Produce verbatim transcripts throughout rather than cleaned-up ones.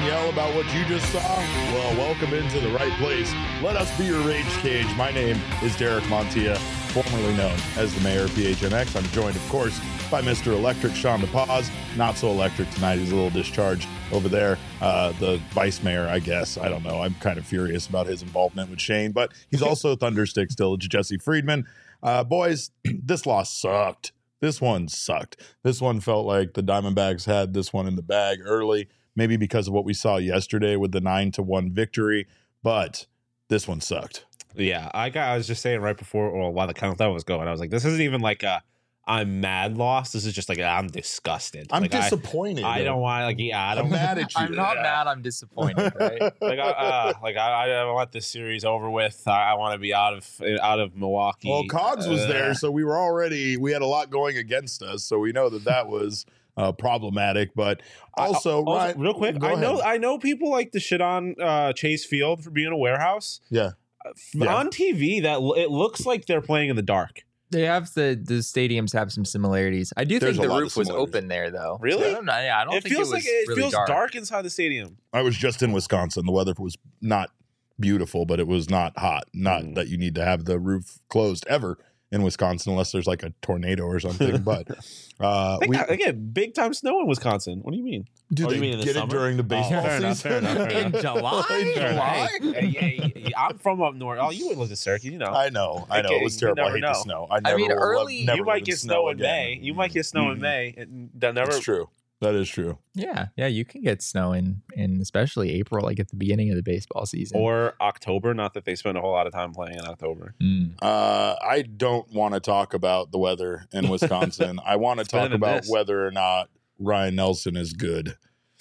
yell about what you just saw? Well, welcome into the right place. Let us be your rage cage. My name is Derek Montilla, formerly known as the Mayor of P H N X. I'm joined, of course, by Mister Electric, Sean DePaz. Not so electric tonight. He's a little discharged over there. Uh, the vice mayor, I guess. I don't know. I'm kind of furious about his involvement with Shane, but he's also Thunderstick still. Jesse Friedman. Uh, boys, this loss sucked. This one sucked. This one felt like the Diamondbacks had this one in the bag early, maybe because of what we saw yesterday with the nine to one victory, but this one sucked. Yeah, I got. I was just saying right before, or while the countdown was going, I was like, "This isn't even like a I'm mad loss. This is just like I'm disgusted. I'm like, disappointed. I, I don't want like yeah. I don't. I'm mad at you. I'm not yeah. mad. I'm disappointed. Right? like I, uh, like I, I want this series over with. I, I want to be out of out of Milwaukee. Well, Cogs was uh, there, so we were already we had a lot going against us, so we know that that was uh, problematic. But also, I, also Ryan, real quick, I know I know people like to shit on uh, Chase Field for being a warehouse. Yeah. yeah, on T V that it looks like they're playing in the dark. They have the the stadiums have some similarities. I do There's think a the lot roof of was similarities. open there, though. Really? So I don't know. Yeah, I don't It think feels it was like it really feels dark. dark inside the stadium. I was just in Wisconsin. The weather was not beautiful, but it was not hot. Not Mm. that you need to have the roof closed ever in Wisconsin unless there's like a tornado or something. But uh, They we got- again, big time snow in Wisconsin. What do you mean? do Oh, they you mean in the get it summer? during the baseball Oh, fair enough, season? fair enough, fair In July? In Fair enough. July? Hey, hey, hey, I'm from up north. Oh, you would live in Syracuse, you know. I know, I know. Okay, It was you terrible. I never hate know. the snow. I, never mean, will love- early- never you live might in get snow in again. May. You might get snow in Mhm. May. And they'll never. It's true. That is true. Yeah, yeah, you can get snow in, in especially April, like at the beginning of the baseball season. Or October. Not that they spend a whole lot of time playing in October. Mm. Uh, I don't want to talk about the weather in Wisconsin. I want to It's better talk than about this. whether or not Ryan Nelson is good.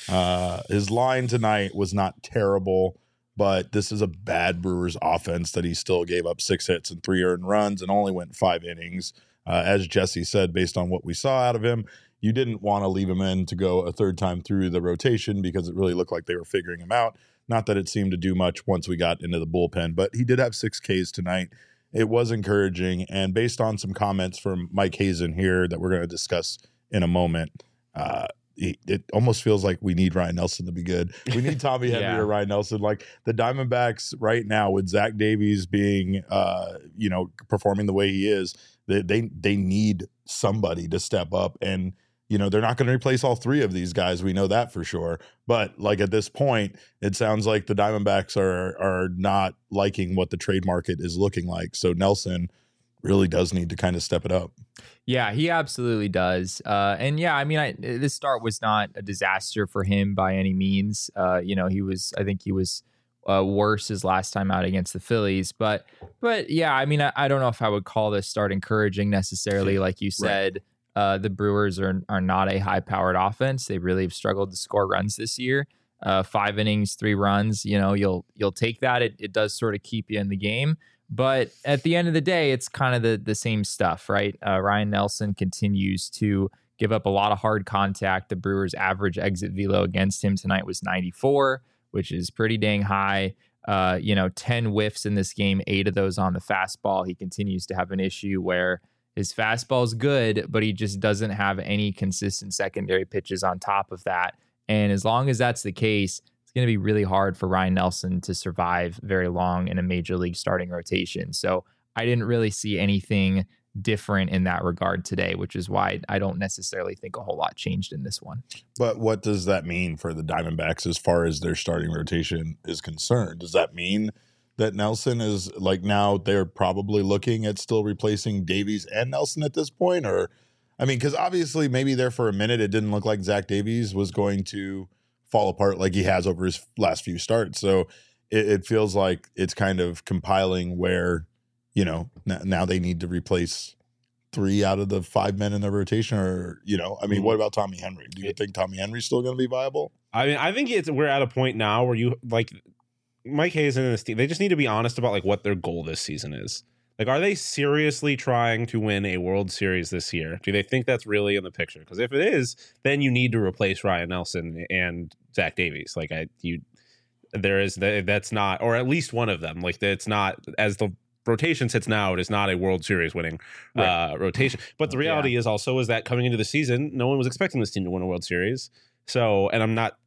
Uh, his line tonight was not terrible, but this is a bad Brewers offense that he still gave up six hits and three earned runs and only went five innings. Uh, as Jesse said, based on what we saw out of him, you didn't want to leave him in to go a third time through the rotation because it really looked like they were figuring him out. Not that it seemed to do much once we got into the bullpen, but he did have six Ks tonight. It was encouraging. And based on some comments from Mike Hazen here that we're going to discuss in a moment, uh, it, it almost feels like we need Ryan Nelson to be good. We need Tommy Henry Yeah. or Ryan Nelson. Like the Diamondbacks right now with Zach Davies being, uh, you know, performing the way he is, they, they, they need somebody to step up. And, you know, they're not going to replace all three of these guys. We know that for sure. But like at this point, it sounds like the Diamondbacks are are not liking what the trade market is looking like. So Nelson really does need to kind of step it up. Yeah, he absolutely does. Uh, and yeah, I mean, I, this start was not a disaster for him by any means. Uh, you know, he was, I think he was uh, worse his last time out against the Phillies. But, but yeah, I mean, I, I don't know if I would call this start encouraging necessarily. Like you said, uh, the Brewers are are not a high powered offense. They really have struggled to score runs this year. Uh, five innings, three runs. You know, you'll you'll take that. It it does sort of keep you in the game. But at the end of the day, it's kind of the the same stuff, right? Uh, Ryan Nelson continues to give up a lot of hard contact. The Brewers' average exit velo against him tonight was ninety-four, which is pretty dang high. Uh, you know, ten whiffs in this game, eight of those on the fastball. He continues to have an issue where his fastball is good, but he just doesn't have any consistent secondary pitches on top of that. And as long as that's the case, it's going to be really hard for Ryan Nelson to survive very long in a major league starting rotation. So I didn't really see anything different in that regard today, which is why I don't necessarily think a whole lot changed in this one. But what does that mean for the Diamondbacks as far as their starting rotation is concerned? Does that mean that Nelson is like now they're probably looking at still replacing Davies and Nelson at this point? Or, I mean, because obviously maybe there for a minute it didn't look like Zach Davies was going to fall apart like he has over his last few starts. So it, it feels like it's kind of compiling where, you know, n- now they need to replace three out of the five men in the rotation. Or, you know, I mean, what about Tommy Henry? Do you think Tommy Henry's still going to be viable? I mean, I think it's we're at a point now where you like Mike Hazen and his team. They just need to be honest about like what their goal this season is. Like, are they seriously trying to win a World Series this year? Do they think that's really in the picture? Because if it is, then you need to replace Ryan Nelson and Zach Davies. Like, I you, there is that's not, or at least one of them. Like, it's not as the rotation sits now. It is not a World Series winning Right. uh, rotation. But the reality Yeah. is also is that coming into the season, no one was expecting this team to win a World Series. So, and I'm not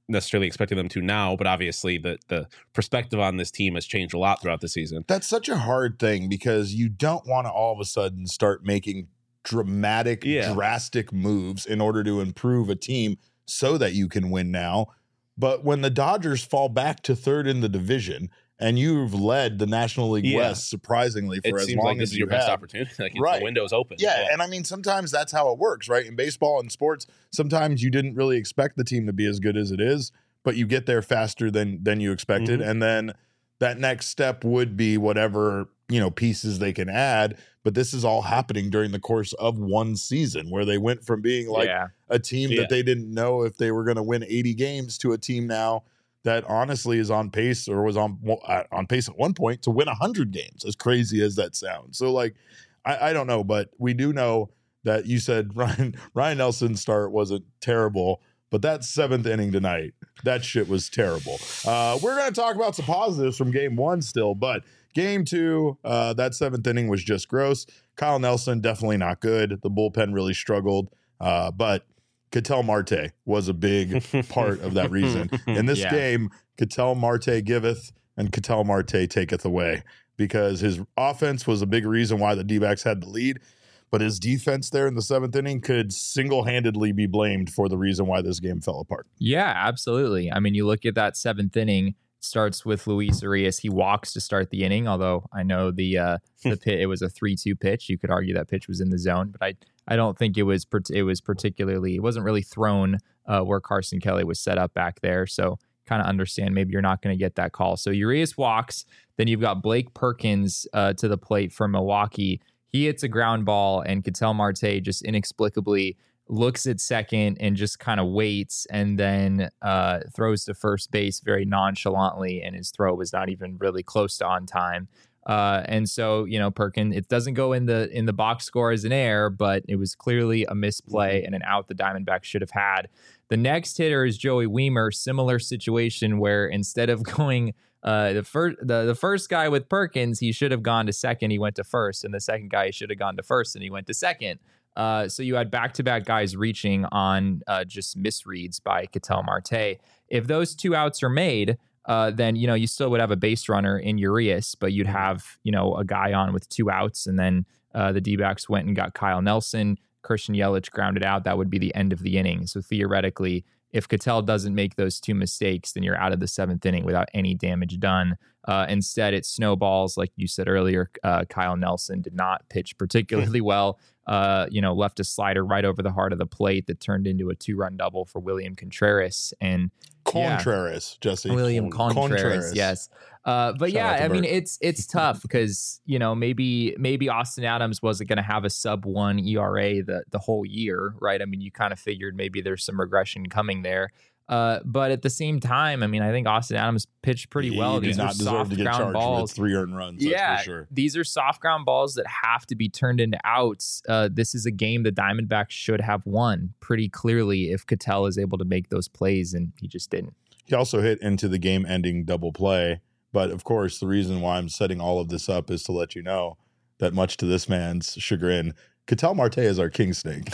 necessarily expecting them to now, but obviously the the perspective on this team has changed a lot throughout the season. That's such a hard thing because you don't want to all of a sudden start making dramatic, Yeah. drastic moves in order to improve a team so that you can win now. But when the Dodgers fall back to third in the division and you've led the National League Yeah. West surprisingly for It as seems long like this as is you your best have. opportunity. Like Right. the window's open. Yeah, and I mean, sometimes that's how it works, right? In baseball and sports, sometimes you didn't really expect the team to be as good as it is, but you get there faster than than you expected, Mhm. and then that next step would be whatever, you know, pieces they can add. But this is all happening during the course of one season, where they went from being like yeah. a team Yeah. that they didn't know if they were going to win eighty games to a team now that honestly is on pace or was on uh, on pace at one point to win one hundred games, as crazy as that sounds. So, like, I, I don't know, but we do know that you said Ryan Ryan Nelson's start wasn't terrible, but that seventh inning tonight, that shit was terrible. Uh, we're going to talk about some positives from game one still, but game two, uh, that seventh inning was just gross. Kyle Nelson, definitely not good. The bullpen really struggled, uh, but Ketel Marte was a big part of that reason. In this Yeah. game, Ketel Marte giveth and Ketel Marte taketh away, because his offense was a big reason why the D-backs had the lead, but his defense there in the seventh inning could single-handedly be blamed for the reason why this game fell apart. Yeah, absolutely. I mean, you look at that seventh inning, starts with Luis Arias. He walks to start the inning, although I know the uh, the pit, it was a three two pitch. You could argue that pitch was in the zone, but I I don't think it was it was particularly, it wasn't really thrown uh, where Carson Kelly was set up back there. So kind of understand maybe you're not going to get that call. So Urias walks. Then you've got Blake Perkins uh, to the plate for Milwaukee. He hits a ground ball, and Ketel Marte just inexplicably looks at second and just kind of waits, and then uh, throws to first base very nonchalantly, and his throw was not even really close to on time. Uh, and so, you know, Perkins, it doesn't go in the in the box score as an error, but it was clearly a misplay and an out the Diamondbacks should have had. The next hitter is Joey Wiemer. Similar situation where instead of going uh, the first the, the first guy with Perkins, he should have gone to second. He went to first, and the second guy he should have gone to first, and he went to second. Uh, so you had back-to-back guys reaching on uh, just misreads by Ketel Marte. If those two outs are made, uh, then, you know, you still would have a base runner in Urias, but you'd have, you know, a guy on with two outs, and then uh, the D-backs went and got Kyle Nelson. Christian Yelich grounded out. That would be the end of the inning. So theoretically, if Ketel doesn't make those two mistakes, then you're out of the seventh inning without any damage done. Uh, instead, it snowballs. Like you said earlier, uh, Kyle Nelson did not pitch particularly well. Uh, you know, left a slider right over the heart of the plate that turned into a two-run double for William Contreras. And Contreras, yeah. Jesse. William Con- Contreras, Contreras. yes. Uh, but Shout yeah, out to I mean, Bert. it's it's tough because, you know, maybe maybe Austin Adams wasn't going to have a sub one E R A the the whole year, right? I mean, you kind of figured maybe there's some regression coming there. Uh, but at the same time, I mean, I think Austin Adams pitched pretty He well. did These not are deserve soft to get ground charged balls. with three earned runs. Yeah, That's for sure. these are soft ground balls that have to be turned into outs. Uh, this is a game the Diamondbacks should have won pretty clearly if Ketel is able to make those plays, and he just didn't. He also hit into the game-ending double play. But of course, the reason why I'm setting all of this up is to let you know that, much to this man's chagrin, Ketel Marte is our king snake.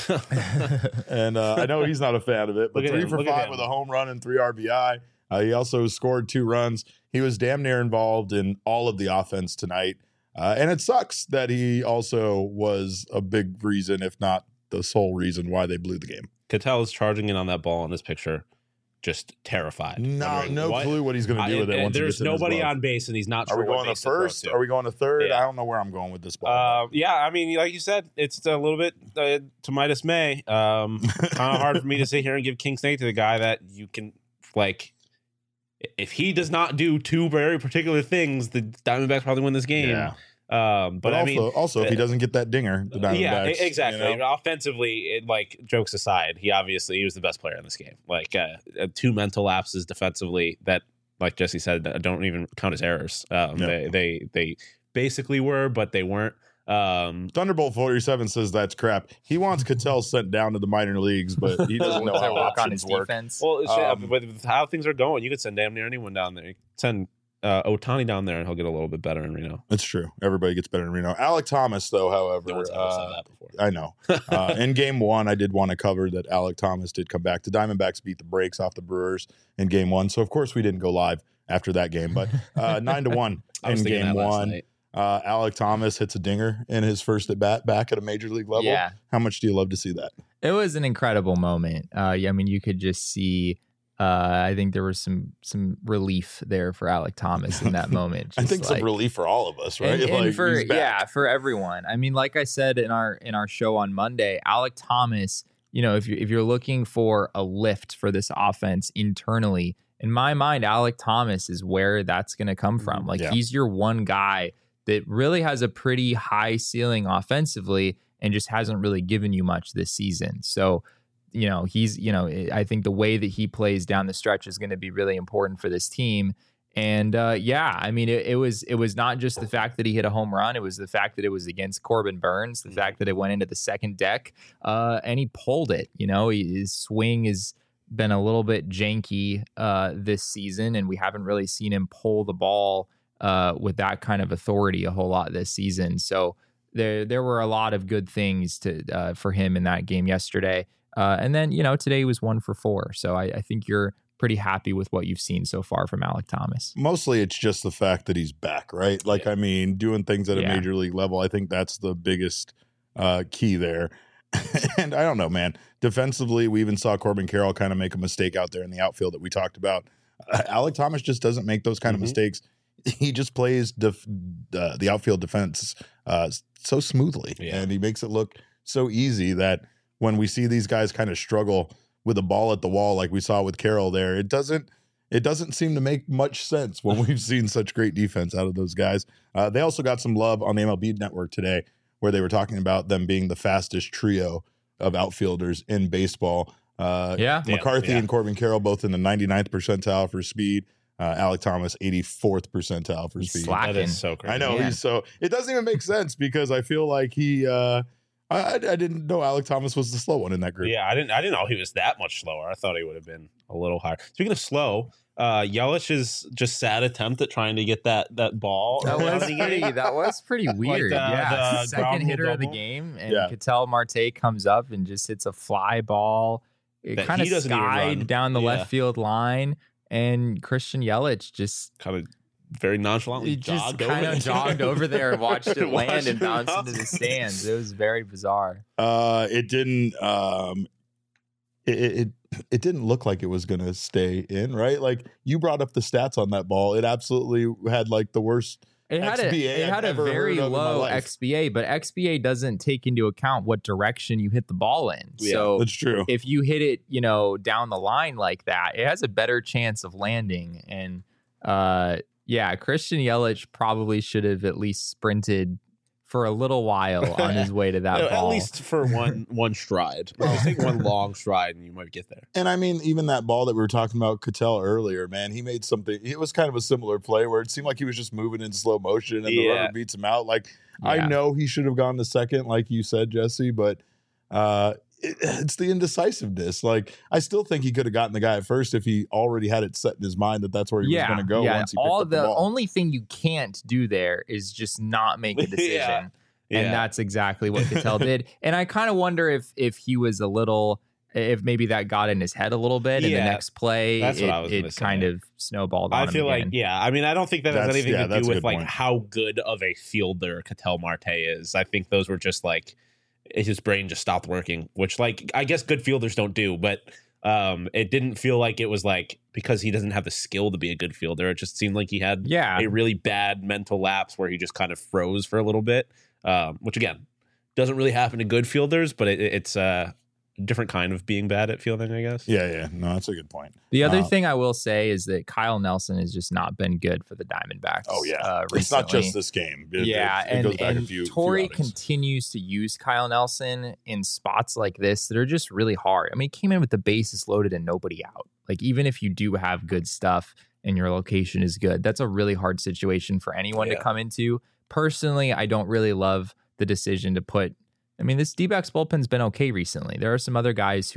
And uh, I know he's not a fan of it, but Look at three him, for look at five him. with a home run and three R B I. Uh, he also scored two runs. He was damn near involved in all of the offense tonight. Uh, and it sucks that he also was a big reason, if not the sole reason, why they blew the game. Ketel is charging in on that ball in this picture, just terrified. No, wondering no what- clue what he's going to do I- with it. and Once he there's gets in his nobody glove. on base, and he's not Are sure we what going to base throw first? to. Are we going to third? Yeah. I don't know where I'm going with this ball. Uh, yeah, I mean, like you said, it's a little bit uh, to my dismay. Um, kind of hard for me to sit here and give King Snake to the guy that you can, like, if he does not do two very particular things, the Diamondbacks probably win this game. Yeah. Um, but, But, I also, mean, also if he uh, doesn't get that dinger, the Diamondbacks. yeah, e- exactly. you know? Offensively, it, like, jokes aside, he obviously he was the best player in this game. Like, uh, uh, two mental lapses defensively that, like Jesse said, uh, don't even count as errors. Um, No. they, they they basically were, but they weren't. Um, Thunderbolt forty-seven says that's crap. He wants Ketel sent down to the minor leagues, but he doesn't know To how work on options his work. defense. well, shit, Um, with, with how things are going, you could send damn near anyone down there. You could send uh, Ohtani down there, and he'll get a little bit better in Reno. That's true. Everybody gets better in Reno. Alec Thomas, though, however, No one's ever said uh, that before. I know. Uh, in game one, I did want to cover that Alec Thomas did come back. The Diamondbacks beat the brakes off the Brewers in game one. So, of course, we didn't go live after that game. But uh, nine to one I was in thinking game that last one. night. Uh, Alec Thomas hits a dinger in his first at bat back at a major league level. Yeah. How much do you love to see that? It was an incredible moment. Uh, yeah, I mean, you could just see. Uh, I think there was some some relief there for Alec Thomas in that moment. I Just think like, some relief for all of us, right? And, and Like, for he's back. yeah, for everyone. I mean, like I said in our in our show on Monday, Alec Thomas. You know, if you if you're looking for a lift for this offense internally, in my mind, Alec Thomas is where that's going to come from. Like Yeah. he's your one guy that really has a pretty high ceiling offensively and just hasn't really given you much this season. So, you know, he's, you know, I think the way that he plays down the stretch is going to be really important for this team. And uh, yeah, I mean, it, it was it was not just the fact that he hit a home run. It was the fact that it was against Corbin Burns, the fact that it went into the second deck, uh, and he pulled it. You know, his swing has been a little bit janky uh, this season, and we haven't really seen him pull the ball uh, with that kind of authority a whole lot this season. So there there were a lot of good things to uh, for him in that game yesterday. Uh, and then, you know, today he was one for four. So I, I think you're pretty happy with what you've seen so far from Alec Thomas. Mostly it's just the fact that he's back, right? Like, Yeah. I mean, doing things at a Yeah. major league level, I think that's the biggest uh, key there. And I don't know, man. Defensively, we even saw Corbin Carroll kind of make a mistake out there in the outfield that we talked about. Uh, Alec Thomas just doesn't make those kind Mhm. of mistakes. He just plays def- uh, the outfield defense uh, so smoothly, Yeah. and he makes it look so easy that when we see these guys kind of struggle with a ball at the wall like we saw with Carroll there, it doesn't it doesn't seem to make much sense when we've seen such great defense out of those guys. Uh, they also got some love on the M L B Network today where they were talking about them being the fastest trio of outfielders in baseball. Uh, Yeah. McCarthy Yeah. and Corbin Carroll both in the ninety-ninth percentile for speed. Uh, Alec Thomas, eighty-fourth percentile for He's speed. slack- That is so crazy. I know Yeah. he's so. It doesn't even make sense because I feel like he. Uh, I, I I didn't know Alec Thomas was the slow one in that group. Yeah, I didn't. I didn't know he was that much slower. I thought he would have been a little higher. Speaking of slow, uh, Yelich's just sad attempt at trying to get that that ball. That was around the pretty. game. That was pretty weird. the- yeah, the ground second rule hitter of the double. game, and Yeah. Ketel Marte comes up and just hits a fly ball. It That kind of he doesn't even skied run. down the Yeah. left field line, and Christian Yelich just Kind of very nonchalantly he just jogged kind over of there. jogged over there and watched it Watched land and it bounce bounce. into the stands. It was very bizarre. Uh, it didn't. Um, it, it it didn't look like it was going to stay in, right? Like you brought up the stats on that ball. It absolutely had like the worst. It had X B A a it I've had a ever very heard of in my low life. X B A, but X B A doesn't take into account what direction you hit the ball in. Yeah, So That's true. if you hit it, you know, down the line like that, it has a better chance of landing. And uh, yeah, Christian Yelich probably should have at least sprinted for a little while on his way to that No, ball. at least for one one stride. Just take one long stride and you might get there. And I mean, even that ball that we were talking about, Cattell earlier, man, he made something. It was kind of a similar play where it seemed like he was just moving in slow motion and the Yeah. rubber beats him out. Like Yeah. I know he should have gone to second, like you said, Jesse, but uh, it, it's the indecisiveness. Like I still think he could have gotten the guy at first if he already had it set in his mind that that's where he was going to go yeah. once he picked All up the, the ball. only thing you can't do there is just not make a decision. Yeah. Yeah. And that's exactly what Cattell did. And I kind of wonder if if he was a little, if maybe that got in his head a little bit. And Yeah, the next play, that's it, what I was gonna it say. kind of snowballed on I him feel again. like, yeah. I mean, I don't think that has That's- anything yeah, to that's do a with good like point. how good of a fielder Ketel Marte is. I think those were just like his brain just stopped working, which like I guess good fielders don't do, but um, it didn't feel like it was like because he doesn't have the skill to be a good fielder. It just seemed like he had Yeah. a really bad mental lapse where he just kind of froze for a little bit, um, which again doesn't really happen to good fielders, but it, it's a different kind of being bad at fielding, I guess. Yeah, yeah. No, that's a good point. The other Uh, thing I will say is that Kyle Nelson has just not been good for the Diamondbacks. Oh, yeah. uh, It's not recently. just this game. It, yeah, it, it and, goes back and a few, few Torrey outings. continues to use Kyle Nelson in spots like this that are just really hard. I mean, he came in with the bases loaded and nobody out. Like, even if you do have good stuff and your location is good, that's a really hard situation for anyone Yeah. to come into. Personally, I don't really love the decision to put. I mean, this D-backs bullpen's been okay recently. There are some other guys who have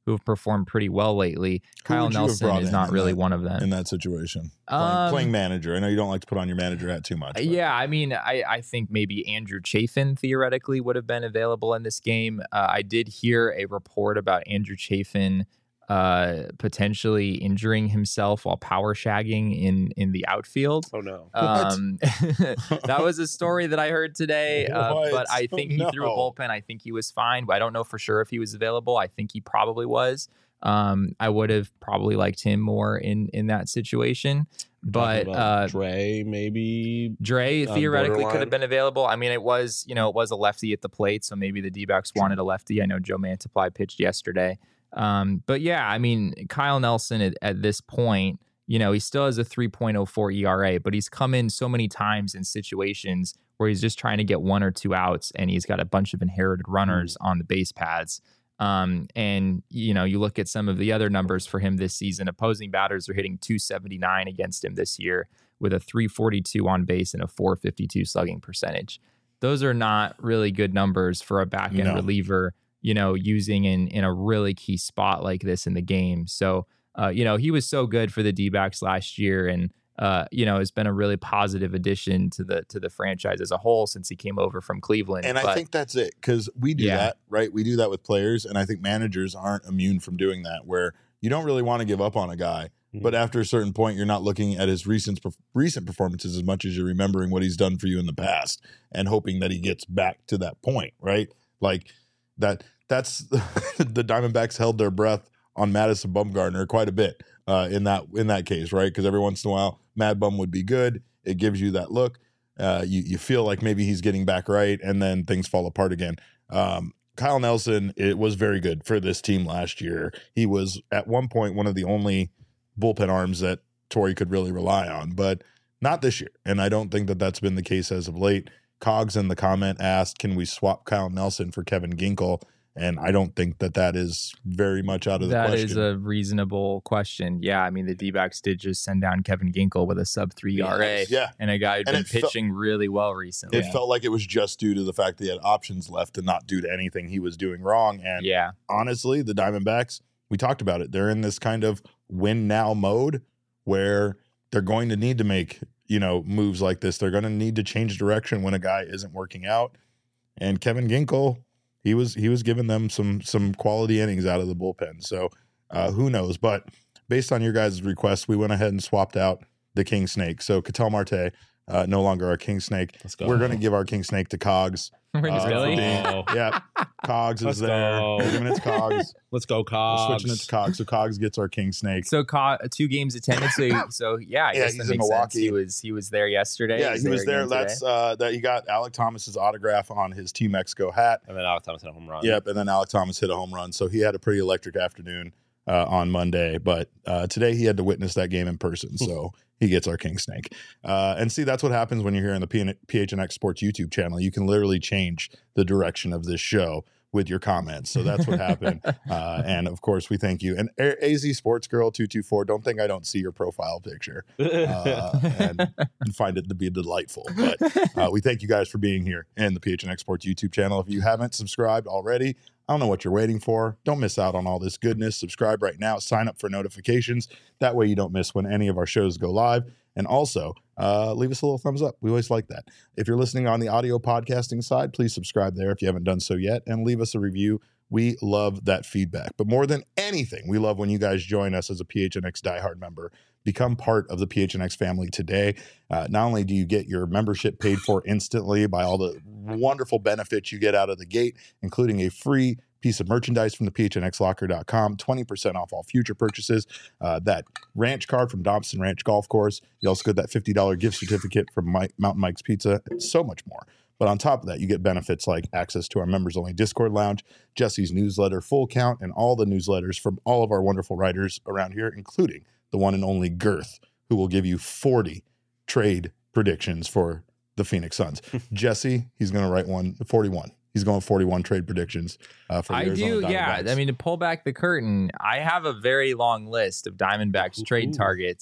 who have performed pretty well lately. Who Kyle would you have Nelson brought is in not in really that- one of them. in that situation? Playing, Um, playing manager. I know you don't like to put on your manager hat too much. but- Yeah, I mean, I, I think maybe Andrew Chafin theoretically would have been available in this game. Uh, I did hear a report about Andrew Chafin uh, potentially injuring himself while power shagging in in the outfield. Oh no. Um, that was a story that I heard today, uh, What? but I think he No. threw a bullpen. I think he was fine, but I don't know for sure if he was available. I think he probably was. Um, I would have probably liked him more in in that situation, but Talking about uh, Dre maybe. Dre on theoretically could borderline. have been available. I mean, it was, you know, it was a lefty at the plate, so maybe the D-backs wanted a lefty. I know Joe Mantiply pitched yesterday. Um, but yeah, I mean, Kyle Nelson at, at this point, you know, he still has a three point oh four E R A, but he's come in so many times in situations where he's just trying to get one or two outs and he's got a bunch of inherited runners on the base paths. Um, and, you know, you look at some of the other numbers for him this season, opposing batters are hitting two seventy-nine against him this year with a three forty-two on base and a four fifty-two slugging percentage. Those are not really good numbers for a back end No. reliever, you know, using in, in a really key spot like this in the game. So, uh, you know, he was so good for the D-backs last year and, uh, you know, has been a really positive addition to the to the franchise as a whole since he came over from Cleveland. And I But- think that's it because we do Yeah. that, right? We do that with players. And I think managers aren't immune from doing that where you don't really want to give up on a guy. Mhm. But after a certain point, you're not looking at his recent recent performances as much as you're remembering what he's done for you in the past and hoping that he gets back to that point, right? Like that. That's the Diamondbacks held their breath on Madison Bumgarner quite a bit uh, in that in that case, right? Because every once in a while, Mad Bum would be good. It gives you that look. Uh, you you feel like maybe he's getting back right, and then things fall apart again. Um, Kyle Nelson, it was very good for this team last year. He was at one point one of the only bullpen arms that Torrey could really rely on, but not this year. And I don't think that that's been the case as of late. Cogs in the comment asked, "Can we swap Kyle Nelson for Kevin Ginkel?" And I don't think that that is very much out of the That question. is a reasonable question. Yeah, I mean, the D-backs did just send down Kevin Ginkel with a sub three E R A. Yeah. And a guy who'd And been it fe- pitching really well recently. It felt like it was just due to the fact that he had options left and not due to anything he was doing wrong. And yeah. honestly, the Diamondbacks, we talked about it. They're in this kind of win now mode where they're going to need to make, you know, moves like this. They're going to need to change direction when a guy isn't working out. And Kevin Ginkel, he was he was giving them some some quality innings out of the bullpen. So uh, who knows? But based on your guys' request, we went ahead and swapped out the King Snake. So Ketel Marte, uh, no longer our King Snake. Let's go. We're going to give our King Snake to Cogs. Really? Uh, for being- Oh. yeah, Cogs is Let's there. go. We're giving it to Cogs. Let's go, We're Cogs. switching it to Cogs. So Cogs gets our King Snake. So co- two games attended. So, so yeah, I Yeah, guess he's that in makes sense. Milwaukee. He was he was there yesterday. Yeah, he was there. again That's today. uh, that he got Alec Thomas's autograph on his Team Mexico hat. And then Alex Thomas hit a home run. Yep, and then Alec Thomas hit a home run. So he had a pretty electric afternoon uh, on Monday. But uh, today he had to witness that game in person. So he gets our King Snake. Uh, and see, that's what happens when you're here on the P- PHNX Sports YouTube channel. You can literally change the direction of this show with your comments. So that's what happened. Uh, and of course, we thank you. And A- AZ Sports Girl two two four, don't think I don't see your profile picture uh, and, and find it to be delightful. But uh, we thank you guys for being here in the P H N X Sports YouTube channel. If you haven't subscribed already, I don't know what you're waiting for. Don't miss out on all this goodness. Subscribe right now. Sign up for notifications. That way you don't miss when any of our shows go live. And also, uh, leave us a little thumbs up. We always like that. If you're listening on the audio podcasting side, please subscribe there if you haven't done so yet, and leave us a review. We love that feedback. But more than anything, we love when you guys join us as a P H N X diehard member. Become part of the P H N X family today. Uh, not only do you get your membership paid for instantly by all the wonderful benefits you get out of the gate, including a free piece of merchandise from the P H N X locker dot com, twenty percent off all future purchases, uh, that ranch card from Dobson Ranch Golf Course. You also get that fifty dollars gift certificate from Mike, Mountain Mike's Pizza, and so much more. But on top of that, you get benefits like access to our members-only Discord lounge, Jesse's newsletter, Full Count, and all the newsletters from all of our wonderful writers around here, including the one and only Girth, who will give you forty trade predictions for the Phoenix Suns. Jesse, he's going to write one, forty-one. He's going forty-one trade predictions uh, for the I Arizona do, yeah. Diamondbacks. I mean, to pull back the curtain, I have a very long list of Diamondbacks trade Ooh. targets.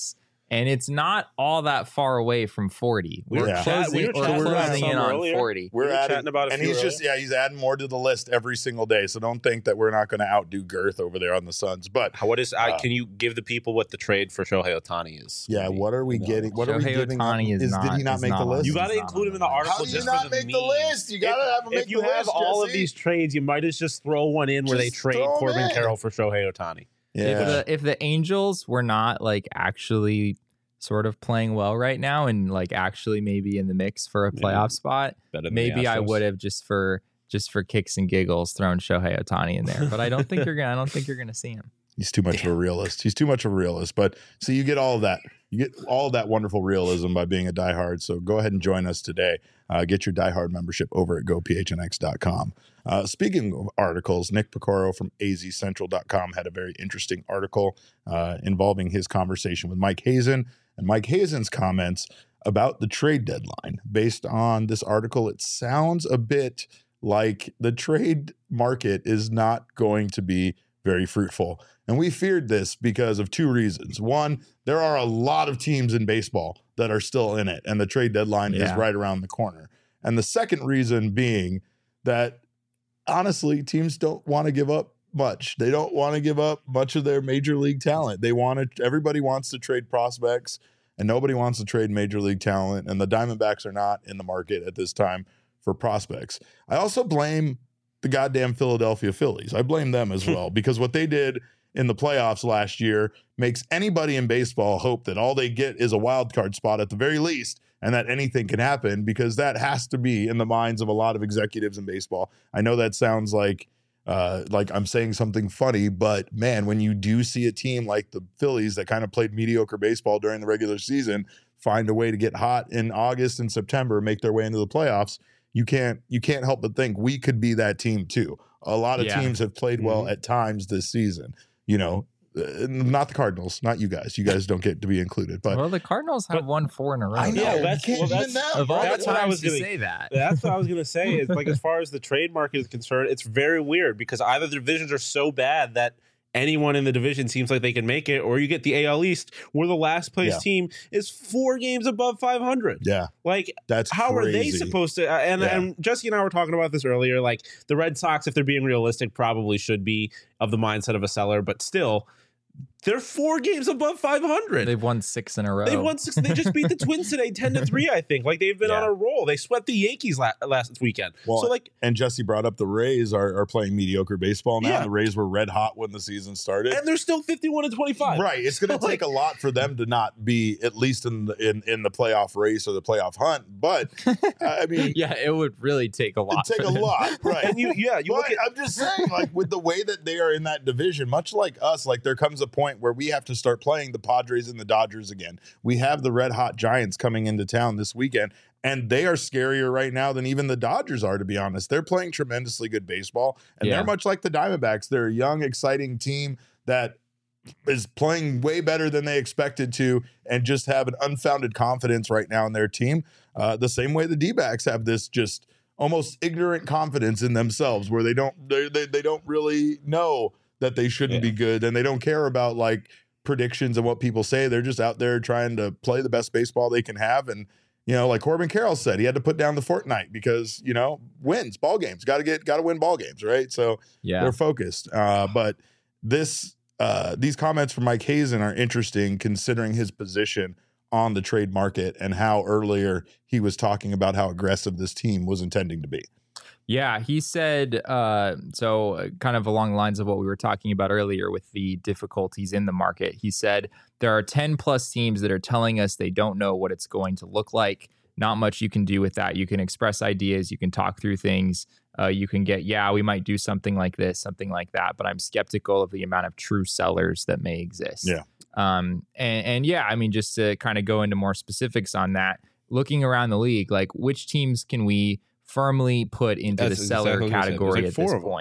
and it's not all that far away from forty. We We're were chat- closing, we were we're chatting about closing in some on earlier. forty. We're We were adding, chatting about a and few he's just yeah, he's adding more to the list every single day. So don't think that we're not going to outdo Girth over there on the Suns. But How- What is? I Uh, can you give the people what the trade for Shohei Ohtani is? yeah, what are we No. getting? What are we Shohei giving? Ohtani up? is did not- he not is make not the on- list? You He's got to not include on him in the the list. article. How do you just not for the make the meme. list? You gotta have him make If you the have list, all of Jesse. these trades, you might as just throw one in where they Just trade throw 'em Corbin in. Carroll for Shohei Ohtani. Yeah, If the if the Angels were not like actually sort of playing well right now and like actually maybe in the mix for a Maybe playoff spot, Better than maybe the I Astros. would have just for just for kicks and giggles thrown Shohei Ohtani in there. But I don't think you're gonna I don't think you're gonna see him. he's too much of a realist. He's too much of a realist. But so you get all of that. You get all of that wonderful realism by being a diehard. So go ahead and join us today. Uh, get your diehard membership over at go p h n x dot com. Uh, speaking of articles, Nick Picaro from a z central dot com had a very interesting article uh, involving his conversation with Mike Hazen and Mike Hazen's comments about the trade deadline. Based on this article, it sounds a bit like the trade market is not going to be very fruitful. And we feared this because of two reasons. One, there are a lot of teams in baseball that are still in it, and the trade deadline is Yeah. right around the corner. And the second reason being that honestly, teams don't want to give up much. They don't want to give up much of their major league talent. They want to, everybody wants to trade prospects, and nobody wants to trade major league talent. And the Diamondbacks are not in the market at this time for prospects. I also blame the goddamn Philadelphia Phillies. I blame them as well because what they did in the playoffs last year makes anybody in baseball hope that all they get is a wild card spot at the very least, and that anything can happen, because that has to be in the minds of a lot of executives in baseball. I know that sounds like uh, like I'm saying something funny, but man, when you do see a team like the Phillies that kind of played mediocre baseball during the regular season find a way to get hot in August and September, make their way into the playoffs, you can't you can't help but think we could be that team too. A lot of Yeah. teams have played well Mhm. at times this season. You know, uh, not the Cardinals, not you guys. You guys don't get to be included. But well, the Cardinals have but- won four in a row. I know Yeah, you that's- can't well, even that's- now. Of all That's the what I times was to gonna- say that. That's what I was gonna say. Is like as far as the trade market is concerned, it's very weird because either the divisions are so bad that anyone in the division seems like they can make it, or you get the A L East where the last place Yeah. team is four games above five hundred. yeah, Like, that's how crazy. are they supposed to? Uh, and, Yeah. and Jesse and I were talking about this earlier. Like the Red Sox, if they're being realistic, probably should be of the mindset of a seller, but still, they're four games above five hundred. They've won six in a row. They won six. They just beat the Twins today, ten to three. I think. Like they've been Yeah. on a roll. They swept the Yankees la- last weekend. Well, so like, And Jesse brought up the Rays are, are playing mediocre baseball now. Yeah. The Rays were red hot when the season started. and they're still fifty-one and twenty-five. Right. It's going to So, take like- a lot for them to not be at least in the in, in the playoff race or the playoff hunt. But I mean, Yeah, it would really take a lot. it'd take for a them. lot. Right. And you, yeah, you But look at I'm just saying, like with the way that they are in that division, much like us, like there comes a point where we have to start playing the Padres and the Dodgers again. We have the red hot Giants coming into town this weekend, and they are scarier right now than even the Dodgers are, to be honest. They're playing tremendously good baseball, and Yeah. they're much like the Diamondbacks. They're a young, exciting team that is playing way better than they expected to and just have an unfounded confidence right now in their team. Uh, the same way the D-backs have this just almost ignorant confidence in themselves where they don't they, they, they don't really know that they shouldn't Yeah. be good, and they don't care about like predictions and what people say. They're just out there trying to play the best baseball they can have. And you know, like Corbin Carroll said, he had to put down the Fortnite because, you know, wins ball games, got to get got to win ball games, right? So Yeah. they're focused. Uh, but this uh, these comments from Mike Hazen are interesting considering his position on the trade market and how earlier he was talking about how aggressive this team was intending to be. Yeah, he said, uh, so uh, kind of along the lines of what we were talking about earlier with the difficulties in the market. He said, there are ten plus teams that are telling us they don't know what it's going to look like. Not much you can do with that. You can express ideas, you can talk through things, uh, you can get, yeah, we might do something like this, something like that. But I'm skeptical of the amount of true sellers that may exist. Yeah. Um, and, and yeah, I mean, just to kind of go into more specifics on that, looking around the league, like which teams can we firmly put into That's the seller exactly what you said. There's category like at four this of them. point?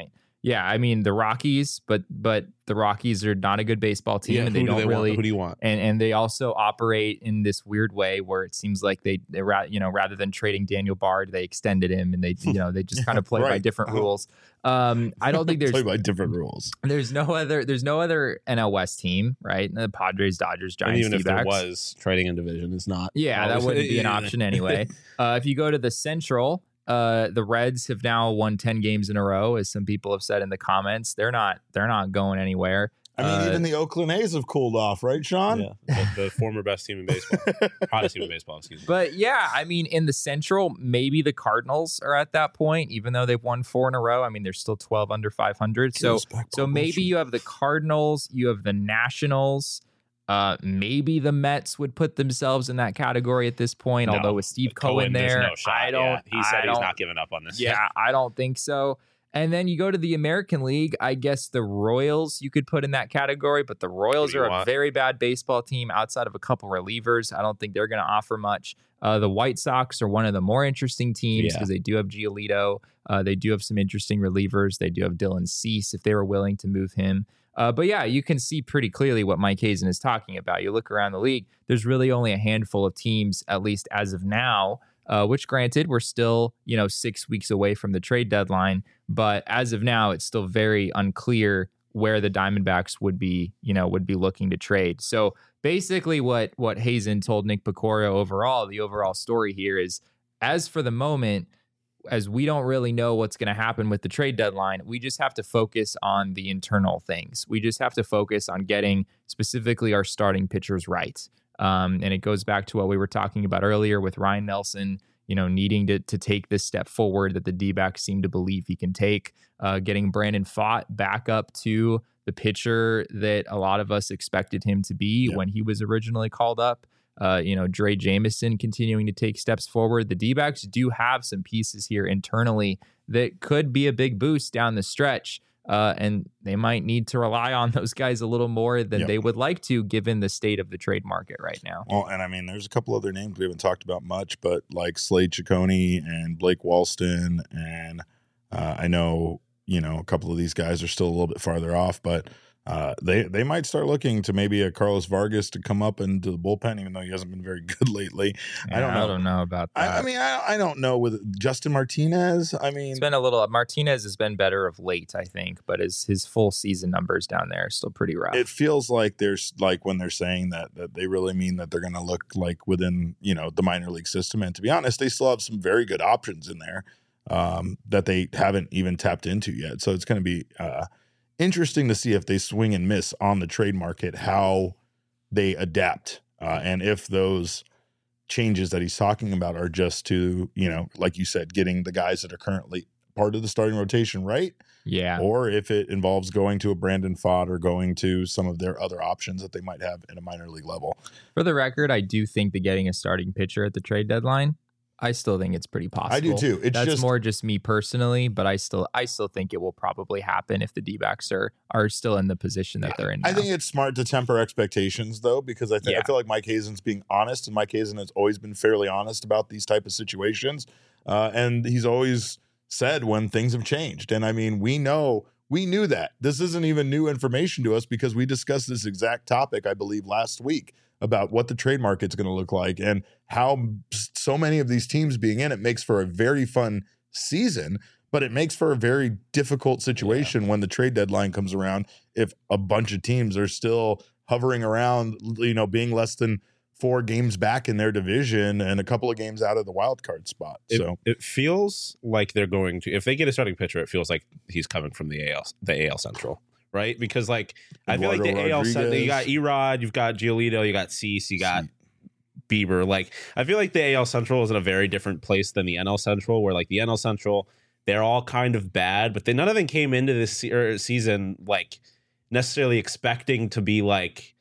Yeah, I mean the Rockies, but but the Rockies are not a good baseball team, Yeah, and they who do don't they really. want? Who do you want? And and they also operate in this weird way where it seems like they they ra- you know rather than trading Daniel Bard, they extended him, and they you know they just kind of play Right. by different rules. Um, I don't think there's Play by different rules. there's no other there's no other N L West team, right? The Padres, Dodgers, And Giants, even if there D-backs. was trading in division, is not. Yeah, that always- wouldn't be an yeah. option anyway. Uh, if you go to the Central, uh, the Reds have now won ten games in a row, as some people have said in the comments. They're not they're not going anywhere. I mean, Uh, even the Oakland A's have cooled off, right, Sean? Yeah, the, the former best team in baseball, hottest team in baseball. Excuse me. But yeah, I mean, in the Central, maybe the Cardinals are at that point, even though they've won four in a row. I mean, they're still twelve under five hundred. So, so maybe you have the Cardinals, you have the Nationals. Uh, maybe the Mets would put themselves in that category at this point. No, although with Steve Cohen, there's there, no shot. I don't. Yeah, he said I he's don't- not giving up on this. Yeah, I don't think so. And then you go to the American League. I guess the Royals you could put in that category, but the Royals do you are a want? very bad baseball team outside of a couple relievers. I don't think they're going to offer much. Uh, the White Sox are one of the more interesting teams Yeah. because they do have Giolito. Uh, they do have some interesting relievers. They do have Dylan Cease if they were willing to move him. Uh, but yeah, you can see pretty clearly what Mike Hazen is talking about. You look around the league, there's really only a handful of teams, at least as of now, uh, which granted, we're still, you know, six weeks away from the trade deadline. But as of now, it's still very unclear where the Diamondbacks would be, you know, would be looking to trade. So basically what, what Hazen told Nick Picorio overall, the overall story here is, as for the moment, as we don't really know what's going to happen with the trade deadline, we just have to focus on the internal things. We just have to focus on getting specifically our starting pitchers right. Um, and it goes back to what we were talking about earlier with Ryan Nelson, you know, needing to to take this step forward that the D-backs seem to believe he can take, uh, getting Brandon Pfaadt back up to the pitcher that a lot of us expected him to be Yeah. when he was originally called up. Uh, you know, Dre Jameson continuing to take steps forward. The D-backs do have some pieces here internally that could be a big boost down the stretch. Uh, and they might need to rely on those guys a little more than Yep. they would like to, given the state of the trade market right now. Well, and I mean, there's a couple other names we haven't talked about much, but like Slade Ciccone and Blake Walston, and uh, I know, you know, a couple of these guys are still a little bit farther off, but uh, they they might start looking to maybe a Carlos Vargas to come up into the bullpen, even though he hasn't been very good lately. I don't Yeah, know. I don't know about that. I, I mean, I, I don't know with Justin Martinez. I mean, It's been a little. Martinez has been better of late, I think, but his his full season numbers down there are still pretty rough. it feels like there's like when they're saying that that they really mean that they're going to look like within, you know, the minor league system. And to be honest, they still have some very good options in there um, that they haven't even tapped into yet. So it's going to be uh, interesting to see if they swing and miss on the trade market, how they adapt, uh, and if those changes that he's talking about are just to, you know, like you said, getting the guys that are currently part of the starting rotation right, yeah. or if it involves going to a Brandon Pfaadt or going to some of their other options that they might have at a minor league level. For the record, I do think that getting a starting pitcher at the trade deadline, I still think it's pretty possible. I do too. It's That's just more just me personally, but I still I still think it will probably happen if the D-backs are are still in the position that they're in now. I think it's smart to temper expectations, though, because I, th- Yeah. I feel like Mike Hazen's being honest, and Mike Hazen has always been fairly honest about these type of situations, uh, and he's always said when things have changed. And I mean, we know we knew that this isn't even new information to us because we discussed this exact topic, I believe, last week about what the trade market's going to look like and how so many of these teams being in it makes for a very fun season. But it makes for a very difficult situation yeah. when the trade deadline comes around. If a bunch of teams are still hovering around, you know, being less than four games back in their division and a couple of games out of the wild card spot. It, so it feels like they're going to, if they get a starting pitcher, it feels like he's coming from the A L, the A L Central, right? Because like I feel like the Eduardo A L Central, you got Rodriguez. Erod, you've got Giolito, you got Cease, you got Bieber. Like I feel like the A L Central is in a very different place than the N L Central, where like the N L Central, they're all kind of bad, but they none of them came into this se- er, season like necessarily expecting to be like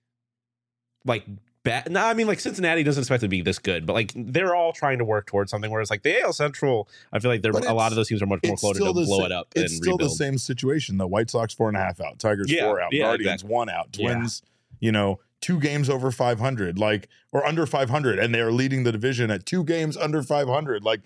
like bad. No, I mean like Cincinnati doesn't expect to be this good, but like they're all trying to work towards something. Whereas like the A L Central, I feel like they're But a lot it's- of those teams are much more it's floated still to the blow sa- it up It's and still rebuild. the same situation. The White Sox four and a half out, Tigers Yeah, four out, yeah, Guardians exactly. one out, Yeah. Twins, you know, two games over five hundred, like or under five hundred, and they are leading the division at two games under five hundred. Like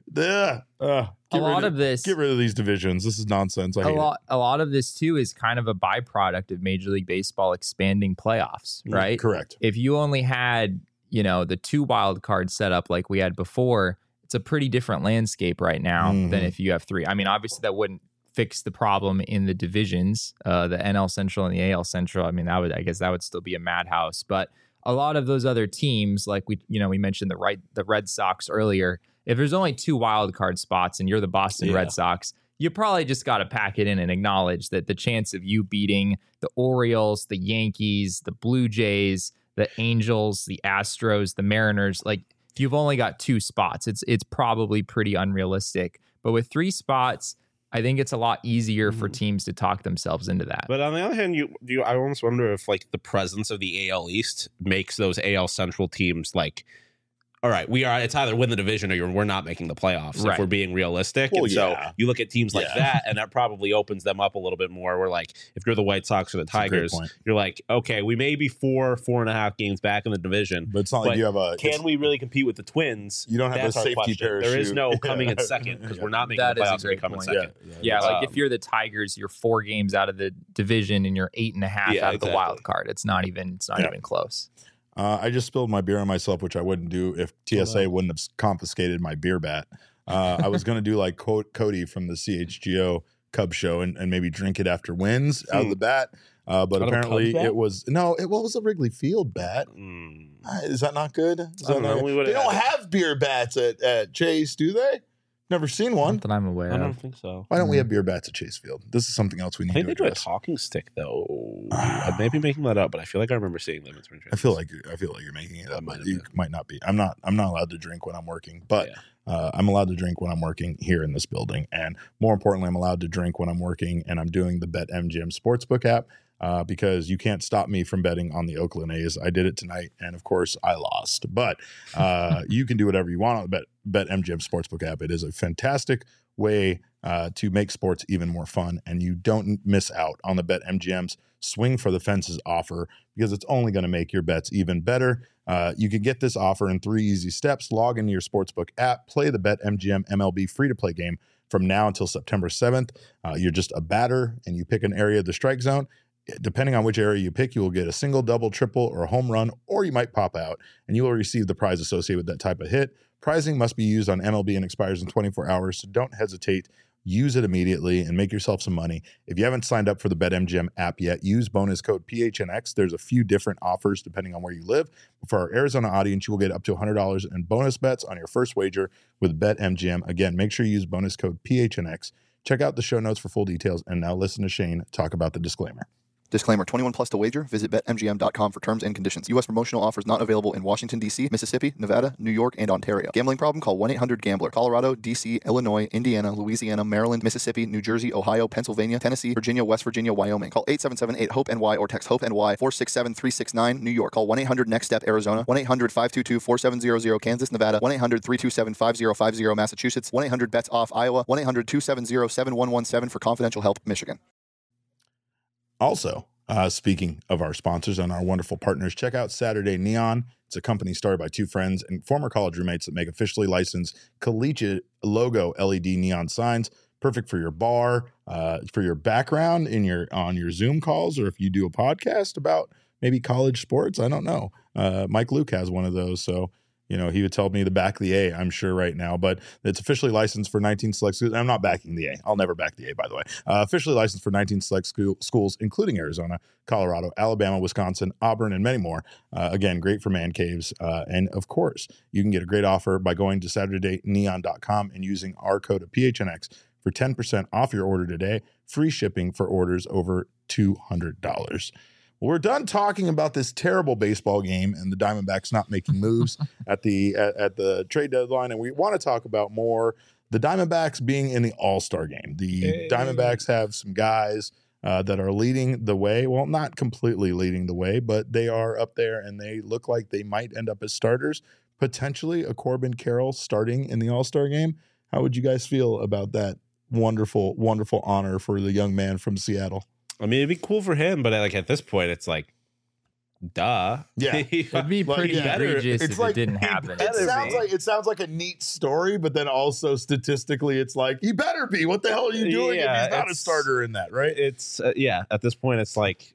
Yeah. Uh, A lot of this, get rid of these divisions. This is nonsense. I a hate lot, a lot of this too is kind of a byproduct of Major League Baseball expanding playoffs, it. right? Correct. If you only had, you know, the two wild cards set up like we had before, it's a pretty different landscape right now Mhm. than if you have three. I mean, obviously that wouldn't fix the problem in the divisions, uh, the N L Central and the A L Central. I mean, that would, I guess that would still be a madhouse, but a lot of those other teams, like we, you know, we mentioned the right, the Red Sox earlier. If there's only two wild card spots and you're the Boston Yeah. Red Sox, you probably just got to pack it in and acknowledge that the chance of you beating the Orioles, the Yankees, the Blue Jays, the Angels, the Astros, the Mariners, like you've only got two spots. It's it's probably pretty unrealistic. But with three spots, I think it's a lot easier for teams to talk themselves into that. But on the other hand, you you I almost wonder if like the presence of the A L East makes those A L Central teams like, all right, we are. It's either win the division or you're, we're not making the playoffs. Right. If we're being realistic, Well, and so yeah. you look at teams like Yeah. that, and that probably opens them up a little bit more. Where like if you're the White Sox or the That's a great Tigers, point. you're like, okay, we may be four, four and a half games back in the division. But it's not like But you have a. Can it's- we really compete with the Twins? You don't have That's a our safety question. parachute. There is no coming in Yeah. second because Yeah. we're not making That the is a playoffs. We great come in point. second. Yeah, like Um, if you're the Tigers, you're four games out of the division and you're eight and a half Yeah, out of the exactly. wild card. It's not even it's not Yeah. even close. Uh, I just spilled my beer on myself, which I wouldn't do if T S A Oh, no. wouldn't have confiscated my beer bat. Uh, I was going to do like Co- Cody from the C H G O Cub Show and, and maybe drink it after wins out of Hmm. the bat. Uh, but Out of a apparently Cubs bat? it was no, it what was a Wrigley Field bat. mm, Uh, Is that not good? Is I that don't not know. good? We would've They don't had- have beer bats at, at Chase, do they? Never seen one. Not that I'm aware I don't of. think so. Why don't we Mhm. have beer bats at Chase Field? This is something else we I need think to they do a address. talking stick though. I may be making that up, but I feel like I remember seeing them in spring training. I feel like I feel like you're making it I up, might but have you been. might not be. I'm not. I'm not allowed to drink when I'm working, but Yeah. uh, I'm allowed to drink when I'm working here in this building, and more importantly, I'm allowed to drink when I'm working and I'm doing the BetMGM Sportsbook app uh, because you can't stop me from betting on the Oakland A's. I did it tonight, and of course, I lost. But uh, you can do whatever you want on the Bet BetMGM Sportsbook app. It is a fantastic way uh, to make sports even more fun, and you don't miss out on the BetMGM's swing for the fences offer because it's only going to make your bets even better. Uh, you can get this offer in three easy steps. Log into your sportsbook app, play the BetMGM M L B free-to-play game from now until September seventh. Uh, you're just a batter, and you pick an area of the strike zone. Depending on which area you pick, you will get a single, double, triple, or a home run, or you might pop out, and you will receive the prize associated with that type of hit. Prizing must be used on M L B and expires in twenty-four hours, so don't hesitate. Use it immediately and make yourself some money. If you haven't signed up for the BetMGM app yet, use bonus code P H N X. There's a few different offers depending on where you live. For our Arizona audience, you will get up to one hundred dollars in bonus bets on your first wager with BetMGM. Again, make sure you use bonus code P H N X. Check out the show notes for full details. And now listen to Shane talk about the disclaimer. Disclaimer, twenty-one plus to wager. Visit bet M G M dot com for terms and conditions. U S promotional offers not available in Washington, D C, Mississippi, Nevada, New York, and Ontario. Gambling problem? Call one eight hundred gambler. Colorado, D C, Illinois, Indiana, Louisiana, Maryland, Mississippi, New Jersey, Ohio, Pennsylvania, Tennessee, Virginia, West Virginia, Wyoming. Call eight seven seven eight hope N Y or text HOPE-NY four six seven three six nine. New York. Call one eight hundred next step Arizona. one eight hundred five two two four seven zero zero Kansas, Nevada. one eight hundred three two seven five zero five zero Massachusetts. one eight hundred bets off Iowa. one eight hundred two seven zero seven one one seven for confidential help, Michigan. Also, uh, speaking of our sponsors and our wonderful partners, check out Saturday Neon. It's a company started by two friends and former college roommates that make officially licensed collegiate logo L E D neon signs. Perfect for your bar, uh, for your background in your on your Zoom calls, or if you do a podcast about maybe college sports. I don't know. Uh, Mike Luke has one of those, so you know he would tell me to back the A. I'm sure right now, but it's officially licensed for nineteen select schools. I'm not backing the A. I'll never back the A, by the way. Uh, officially licensed for nineteen select school, schools, including Arizona, Colorado, Alabama, Wisconsin, Auburn, and many more. Uh, again, great for man caves. Uh, and of course, you can get a great offer by going to Saturday Neon dot com and using our code of P H N X for ten percent off your order today. Free shipping for orders over two hundred dollars. Well, we're done talking about this terrible baseball game and the Diamondbacks not making moves at the at, at the trade deadline, and we want to talk about more the Diamondbacks being in the All-Star game. The Hey. Diamondbacks have some guys uh, that are leading the way. Well, not completely leading the way, but they are up there, and they look like they might end up as starters. Potentially a Corbin Carroll starting in the All-Star game. How would you guys feel about that wonderful, wonderful honor for the young man from Seattle? I mean, it'd be cool for him, but like at this point, it's like duh. Yeah. It'd be Like, pretty yeah. egregious It's if like- it didn't he happen. It better sounds be. like it sounds like a neat story, but then also statistically, it's like he better be. What the hell are you doing Yeah, if he's not a it's- starter in that, right? It's uh, yeah. At this point, it's like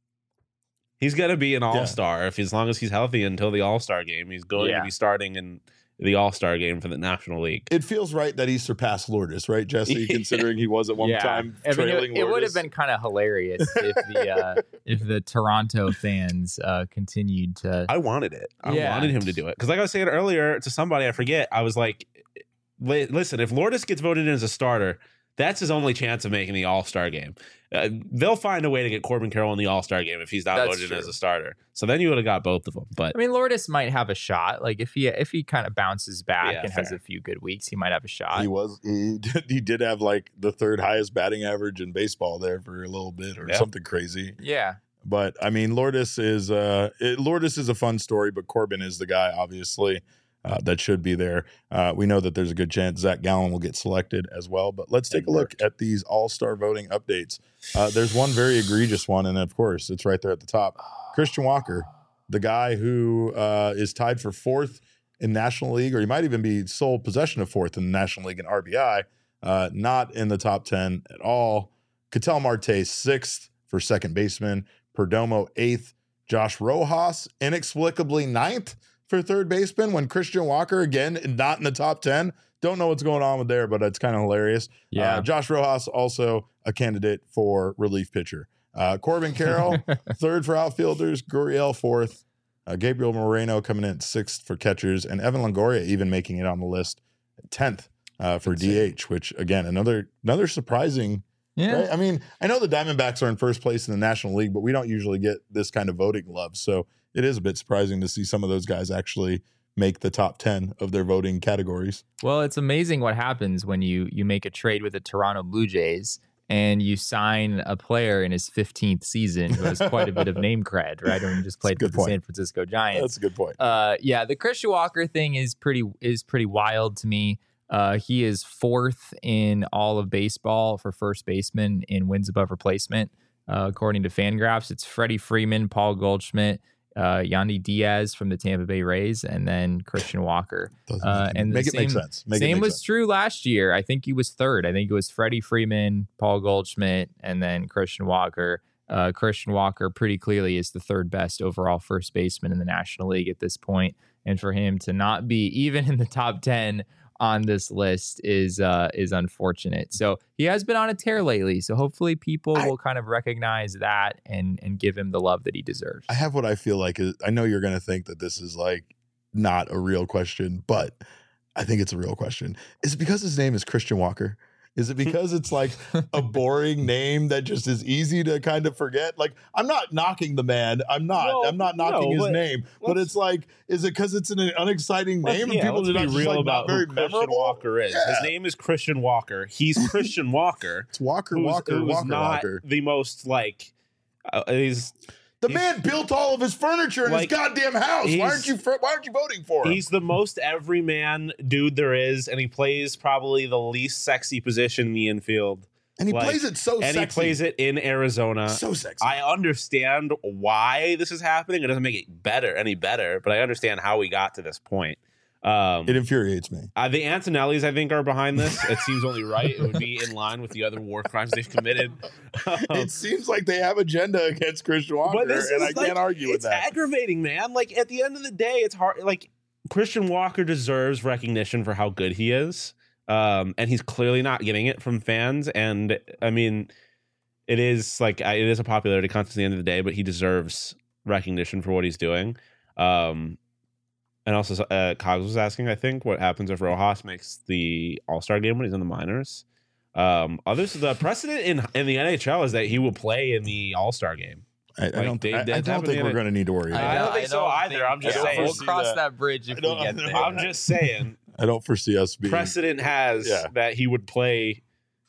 he's gonna be an all star if as long as he's healthy until the All Star game. He's going Yeah. to be starting in the All Star game for the National League. It feels right that he surpassed Lourdes, right, Jesse? Considering he was at one yeah. time I mean, trailing it, it would Lourdes. have been kind of hilarious if the uh, if the Toronto fans uh, continued to. I wanted it. I Yeah. wanted him to do it because, like I was saying earlier to somebody, I forget. I was like, "Li- "Listen, if Lourdes gets voted in as a starter, that's his only chance of making the All Star game. Uh, they'll find a way to get Corbin Carroll in the All Star game if he's not That's voted in true. as a starter. So then you would have got both of them. But I mean, Lourdes might have a shot. Like if he if he kind of bounces back Yeah, and has fair. a few good weeks, he might have a shot. He was he did, he did have like the third highest batting average in baseball there for a little bit or Yeah. something crazy. yeah. But I mean, Lourdes is uh, it, Lourdes is a fun story, but Corbin is the guy, obviously, uh, that should be there. Uh, we know that there's a good chance Zach Gallen will get selected as well. But let's take It a look worked. at these All Star voting updates. Uh, there's one very egregious one, and of course, it's right there at the top. Christian Walker, the guy who uh, is tied for fourth in National League, or he might even be sole possession of fourth in the National League in R B I, uh, not in the top ten at all. Ketel Marte sixth for second baseman. Perdomo eighth, Josh Rojas inexplicably ninth for third baseman when Christian Walker, again, not in the top ten. Don't know what's going on with there, but it's kind of hilarious. Yeah. Uh, Josh Rojas, also a candidate for relief pitcher. Uh, Corbin Carroll, third for outfielders. Gurriel, fourth. Uh, Gabriel Moreno coming in at sixth for catchers. And Evan Longoria even making it on the list at tenth uh, for D H, which, again, another another surprising Yeah. Right? I mean, I know the Diamondbacks are in first place in the National League, but we don't usually get this kind of voting love. So it is a bit surprising to see some of those guys actually make the top ten of their voting categories. Well, it's amazing what happens when you you make a trade with the Toronto Blue Jays and you sign a player in his fifteenth season who has quite a bit of name cred, right? And just played for good the point. San Francisco Giants. That's a good point. Uh, yeah, the Christian Walker thing is pretty is pretty wild to me. Uh, he is fourth in all of baseball for first baseman in wins above replacement, uh, according to Fangraphs. It's Freddie Freeman, Paul Goldschmidt, uh, Yandy Diaz from the Tampa Bay Rays, and then Christian Walker. Doesn't Uh, and the make it make same- sense. Make it Same make was sense. true last year. I think he was third. I think it was Freddie Freeman, Paul Goldschmidt, and then Christian Walker. Uh, Christian Walker pretty clearly is the third best overall first baseman in the National League at this point. And for him to not be even in the top ten on this list is uh, is unfortunate. So he has been on a tear lately. So hopefully people I- will kind of recognize that and and give him the love that he deserves. I have what I feel like is, I know you're going to think that this is like not a real question, but I think it's a real question. Is it because his name is Christian Walker? Is it because it's like a boring name that just is easy to kind of forget? Like, I'm not knocking the man. I'm not. No, I'm not knocking no, his but name. But let's- it's like, is it because it's an unexciting Let's- name yeah, and people let's are not be just real like about not very who Christian memorable? Walker is. Yeah. His name is Christian Walker. He's Christian Walker. It's Walker, who's- Walker, who's Walker, not Walker. the most like. Uh, he's The he's- man built all of his furniture in like, his goddamn house. Why he's- aren't you? fr- Why aren't you voting for him? He's the most everyman dude there is, and he plays probably the least sexy position in the infield. And he like- plays it so and sexy. he plays it in Arizona. so sexy. I understand why this is happening. It doesn't make it better, any better, but I understand how we got to this point. Um, it infuriates me. uh, the Antonellis, I think, are behind this. It seems only right. It would be in line with the other war crimes they've committed. Um, It seems like they have agenda against Christian Walker, But this and I is, like, can't argue with it's that. aggravating, man. Like at the end of the day, it's hard. Like Christian Walker deserves recognition for how good he is, um, and he's clearly not getting it from fans. And I mean, it is like I- it is a popularity contest at the end of the day, but he deserves recognition for what he's doing. Um, and also, uh, Cogs was asking, I think, what happens if Rojas makes the All Star game when he's in the minors. Um, others, the precedent in in the N H L is that he will play in the All Star game. I, I like, don't, they- I, I that's don't think happening we're in- going to need to worry about I it. don't think so either. I'm just I don't saying. We'll foresee cross that. that, bridge if I we don't- get there. I'm just saying. I don't foresee us being. Precedent has Yeah. that he would play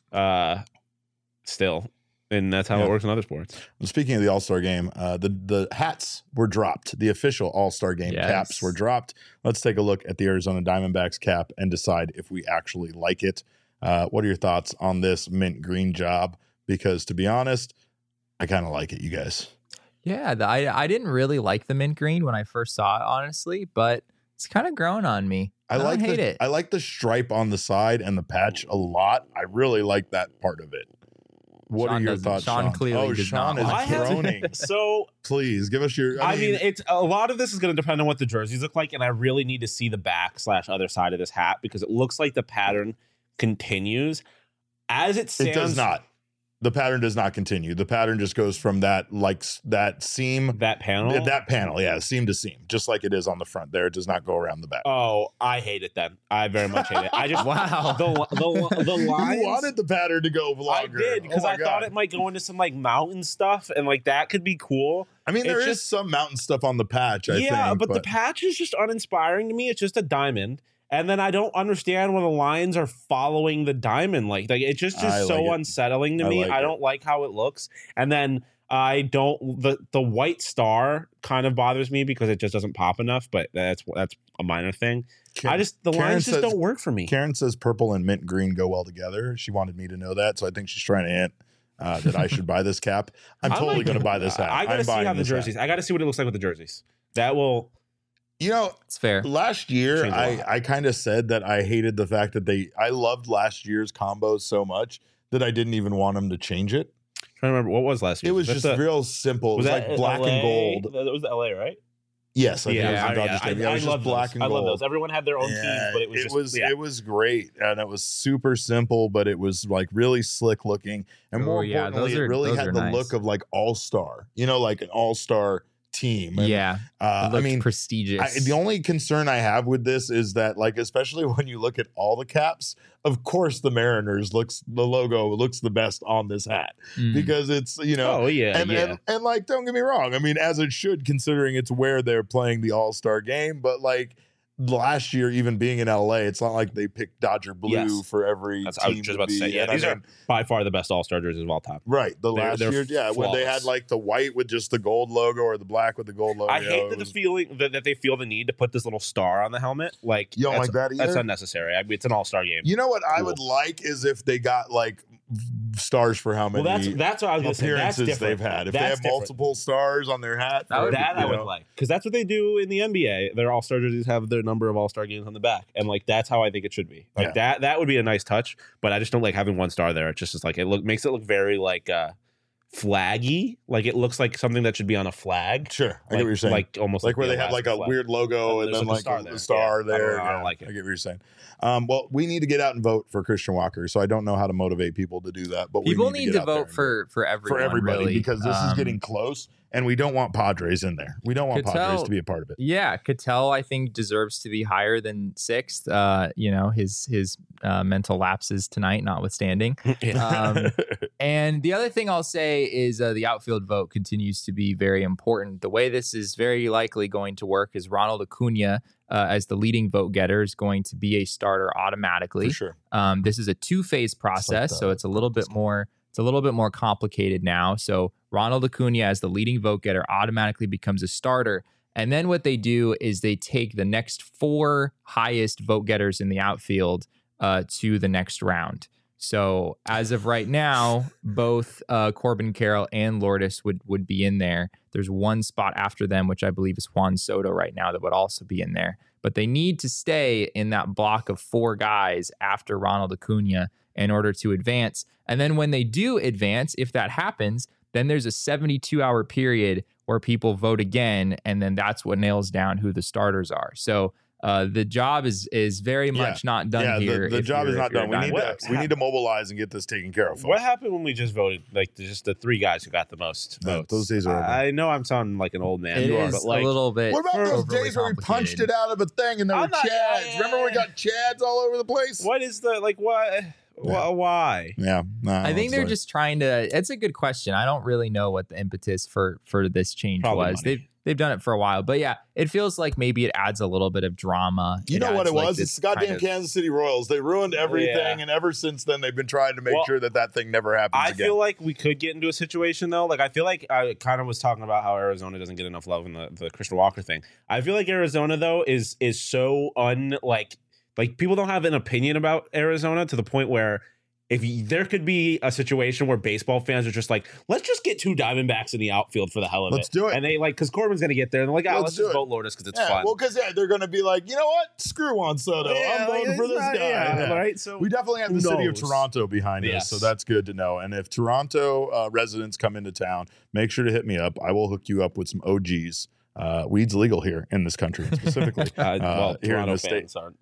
uh, still, and that's how Yeah. it works in other sports. Speaking of the All Star game, uh, the the hats were dropped. The official All Star game Yes. caps were dropped. Let's take a look at the Arizona Diamondbacks cap and decide if we actually like it. Uh, what are your thoughts on this mint green job? Because to be honest, I kind of like it, you guys. Yeah, the, I I didn't really like the mint green when I first saw it, honestly, but it's kind of grown on me. I, I like don't hate the, it. I like the stripe on the side and the patch a lot. I really like that part of it. What Sean are your doesn't. thoughts, Sean Sean? clearly oh, does Sean not is like I have- groaning. So Please give us your. I, I, mean, mean, it's a lot of this is going to depend on what the jerseys look like, and I really need to see the back slash other side of this hat because it looks like the pattern continues as it stands. it does not. The pattern does not continue. The pattern just goes from that like s- that seam That panel. th- that panel, yeah, seam to seam, just like it is on the front. There, it does not go around the back. Oh, I hate it. Then I very much hate it. I just Wow. the the the lines. You wanted the pattern to go I longer. did because Oh my I thought God. it might go into some like mountain stuff and like that could be cool. I mean, there it's is just- some mountain stuff on the patch. I yeah, think, but, the patch is just uninspiring to me. It's just a diamond. And then I don't understand when the lines are following the diamond. Like, like it's just, I just like so it. unsettling to I me. like I it. don't like how it looks. And then I don't the the white star kind of bothers me because it just doesn't pop enough. But that's that's a minor thing. Karen, I just the Karen lines just says- don't work for me. Karen says purple and mint green go well together. She wanted me to know that, so I think she's trying to hint uh, that I should buy this cap. I'm I totally like going to it. buy this hat. I gotta I'm see buying how the this hat. jerseys. I gotta see what it looks like with the jerseys. That will. You know, It's fair. last year Change a I, lot. I kind of said that I hated the fact that they I loved last year's combos so much that I didn't even want them to change it. trying to remember what was last year. It was That just the- real simple. It was, that like black L A? and gold. That was the L A, right? Yes, I think it was Yeah, in Dodger I, Stadium. I, Yeah, it I was love just black those. and I gold. love those. Everyone had their own Yeah, teams, but it was it just was yeah. it was great, and it was super simple, but it was like really slick looking, and more Oh, yeah, importantly, those are- it really those had are the nice. look of like all star. You know, like an all star team. And, Yeah, uh, it I looked mean, prestigious. I, the only concern I have with this is that, like, especially when you look at all the caps, of course, the Mariners looks the logo looks the best on this hat Mm. because it's you know. Oh yeah, And, yeah. and and like, don't get me wrong. I mean, as it should, considering it's where they're playing the All Star game. But like last year, even being in L A, it's not like they picked Dodger blue Yes. for every That's- team. I was just about to be. say, yeah, And I these are mean, by far the best All Star jerseys of all time. right. The they're- last they're year, yeah, when they had flawless. like the white with just the gold logo or the black with the gold logo. I hate it that the was- feeling that, that they feel the need to put this little star on the helmet. Like You don't that's, like that either? That's unnecessary. I mean, it's an All Star game. You know what I Cool. would like is if they got like stars for how many well, that's that's what I was going to say. That's appearances different. they've had. If That's they have different. multiple stars on their hat, That for, would- That you I would know, like because that's what they do in the N B A. Their All Star jerseys have their number of All Star games on the back, and like that's how I think it should be. Like Yeah. that that would be a nice touch. But I just don't like having one star there. It just is like it look makes it look very like uh flaggy. Like it looks like something that should be on a flag. Sure, I like, get what you're saying. Like almost like where the they have like a Alaska flag. weird logo And and there's then like a like star a, there. a star Yeah, I don't there. know, I don't Yeah, like it. I get what you're saying. Um, well, we need to get out and vote for Christian Walker. So I don't know how to motivate people to do that, but People we need, need to, to get out there vote and for for everyone for everybody really. because this is Um, getting close, and we don't want Padres in there. We don't want Padres Cattell- to be a part of it. Yeah, Cattell, I think, deserves to be higher than sixth. Uh, you know, his his uh, mental lapses tonight, notwithstanding. Um, and the other thing I'll say is uh, the outfield vote continues to be very important. The way this is very likely going to work is Ronald Acuna, uh, as the leading vote getter, is going to be a starter automatically. For sure. Um, this is a two-phase process, the- so it's a little bit more it's a little bit more complicated now. So Ronald Acuna, as the leading vote getter, automatically becomes a starter. And then what they do is they take the next four highest vote getters in the outfield uh, to the next round. So as of right now, both uh, Corbin Carroll and Lourdes would would be in there. There's one spot after them, which I believe is Juan Soto right now, that would also be in there. But they need to stay in that block of four guys after Ronald Acuna in order to advance. And then when they do advance, if that happens, then there's a seventy-two hour period where people vote again, and then that's what nails down who the starters are. So uh, the job is is very Yeah. much not done yeah, here. the, the if job you're- is if not you're a done. We need to Diamondbacks. we need to mobilize and get this taken care of. What folks. happened when we just voted? Like just the three guys who got the most No, votes. those days are over. I know I'm sounding like an old man. It you are, is but like, a little bit. What about those overly days where we punched complicated. it out of a thing and there I'm were not- chads? yeah, Remember we yeah. got chads all over the place? what is the like? What? Yeah. Why? Yeah, no, I think it's they're like- just trying to. It's a good question. I don't really know what the impetus for for this change Probably was. money. They've they've done it for a while, but yeah, it feels like maybe it adds a little bit of drama. You know what adds, it like, was? this It's the goddamn kind of- Kansas City Royals. They ruined everything, Yeah. and ever since then, they've been trying to make Well, sure that that thing never happens I again. feel like we could get into a situation though. Like I feel like I kind of was talking about how Arizona doesn't get enough love in the, the Christian Walker thing. I feel like Arizona though is is so un like like people don't have an opinion about Arizona to the point where if you, there could be a situation where baseball fans are just like, let's just get two Diamondbacks in the outfield for the hell of Let's it. do it. And they like, because Corbin's going to get there, and they're like, oh, Let's let's, do just it. vote Lourdes because it's Yeah, fun. well, because yeah, they're going to be like, you know what? Screw Juan Soto. Yeah, I'm voting like, for it's this not- guy. yeah, Yeah. right? So We definitely have who the city of knows? Toronto behind us, Yes. so that's good to know. And if Toronto uh, residents come into town, make sure to hit me up. I will hook you up with some O Gs. Uh, weed's legal here in this country, specifically. Uh, well, here in Toronto the state. fans aren't.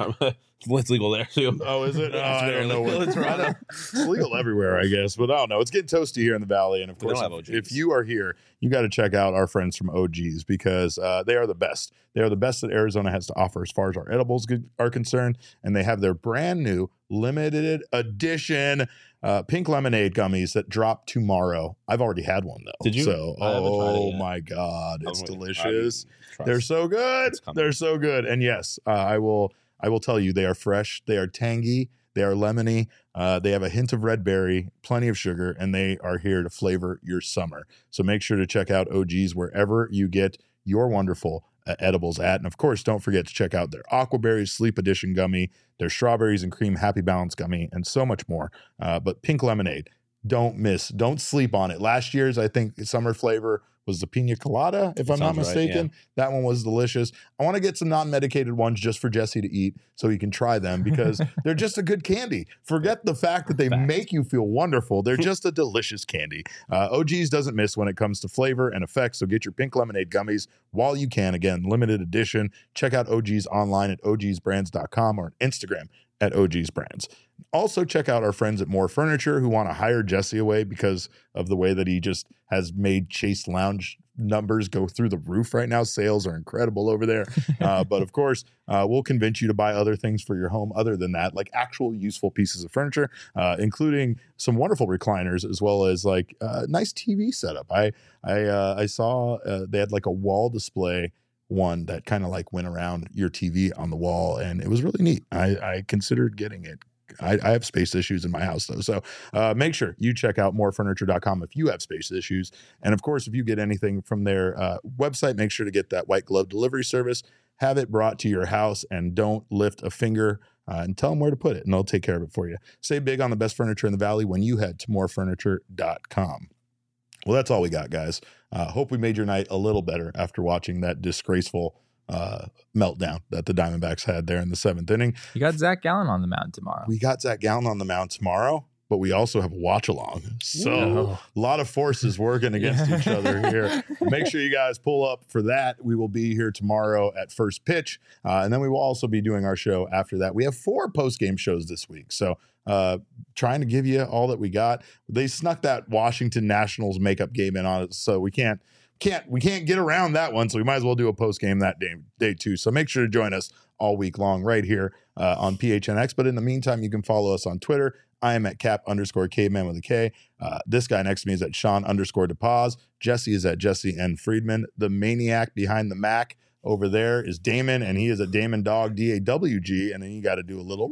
It's legal there too. Oh, is it? Oh, Yeah, it's I very don't know. legal What, in Toronto. it's legal everywhere, I guess, but I don't know. It's getting toasty here in the Valley, and of We don't course, have if, O Gs. if you are here, you got to check out our friends from O Gs because uh, they are the best. They are the best that Arizona has to offer as far as our edibles good- are concerned, and they have their brand new limited edition uh, pink lemonade gummies that drop tomorrow. I've already had one though. Did you? So, I haven't tried it oh yet. my god, it's I'm waiting. delicious. I'm- They're so good. It's coming. They're so good. And yes, uh, I will. I will tell you, they are fresh. They are tangy. They are lemony. Uh, they have a hint of red berry, plenty of sugar, and they are here to flavor your summer. So make sure to check out O Gs wherever you get your wonderful uh, edibles at. And of course, don't forget to check out their Aquaberries Sleep Edition gummy, their Strawberries and Cream Happy Balance gummy, and so much more. Uh, but pink lemonade, don't miss. Don't sleep on it. Last year's, I think, summer flavor was the pina colada, if That I'm not sounds right, mistaken. That one was delicious. I want to get some non-medicated ones just for Jesse to eat so he can try them because they're just a good candy. Forget the fact that they Fact. make you feel wonderful. They're just a delicious candy. Uh, O Gs doesn't miss when it comes to flavor and effects, so get your pink lemonade gummies while you can. Again, limited edition. Check out O Gs online at O Gs brands dot com or on Instagram at O Gs Brands. Also, check out our friends at More Furniture who want to hire Jesse away because of the way that he just has made Chase Lounge numbers go through the roof right now. Sales are incredible over there. Uh, but of course, uh, we'll convince you to buy other things for your home other than that, like actual useful pieces of furniture, uh, including some wonderful recliners as well as like a nice T V setup. I I uh, I saw uh, they had like a wall display one that kind of like went around your T V on the wall, and it was really neat. I, I considered getting it. I, I have space issues in my house though. So uh, make sure you check out more furniture dot com if you have space issues. And of course, if you get anything from their uh, website, make sure to get that white glove delivery service, have it brought to your house, and don't lift a finger uh, and tell them where to put it and they'll take care of it for you. Save big on the best furniture in the Valley when you head to more furniture dot com. Well, that's all we got, guys. Uh, hope we made your night a little better after watching that disgraceful uh, meltdown that the Diamondbacks had there in the seventh inning. You got Zach Gallen on the mound tomorrow. We got Zach Gallen on the mound tomorrow, but we also have a watch along. So Ooh. a lot of forces working against each other here. Make sure you guys pull up for that. We will be here tomorrow at first pitch. Uh, and then we will also be doing our show after that. We have four post-game shows this week. So uh, trying to give you all that we got. They snuck that Washington Nationals makeup game in on it. So we can't, can't, we can't get around that one. So we might as well do a post-game that day, day too. So make sure to join us all week long right here uh, on P H N X. But in the meantime, you can follow us on Twitter. I am at cap underscore caveman with a K. Uh, this guy next to me is at Sean underscore DePaz. Jesse is at Jesse N. Friedman. The maniac behind the Mac over there is Damon, and he is at Damon Dog, D A W G. And then you got to do a little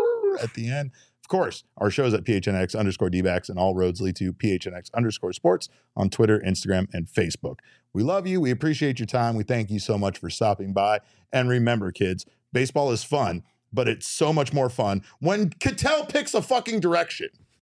at the end. Of course, our show is at P H N X underscore D-backs, and all roads lead to P H N X underscore sports on Twitter, Instagram, and Facebook. We love you. We appreciate your time. We thank you so much for stopping by. And remember, kids, baseball is fun, but it's so much more fun when Cattell picks a fucking direction.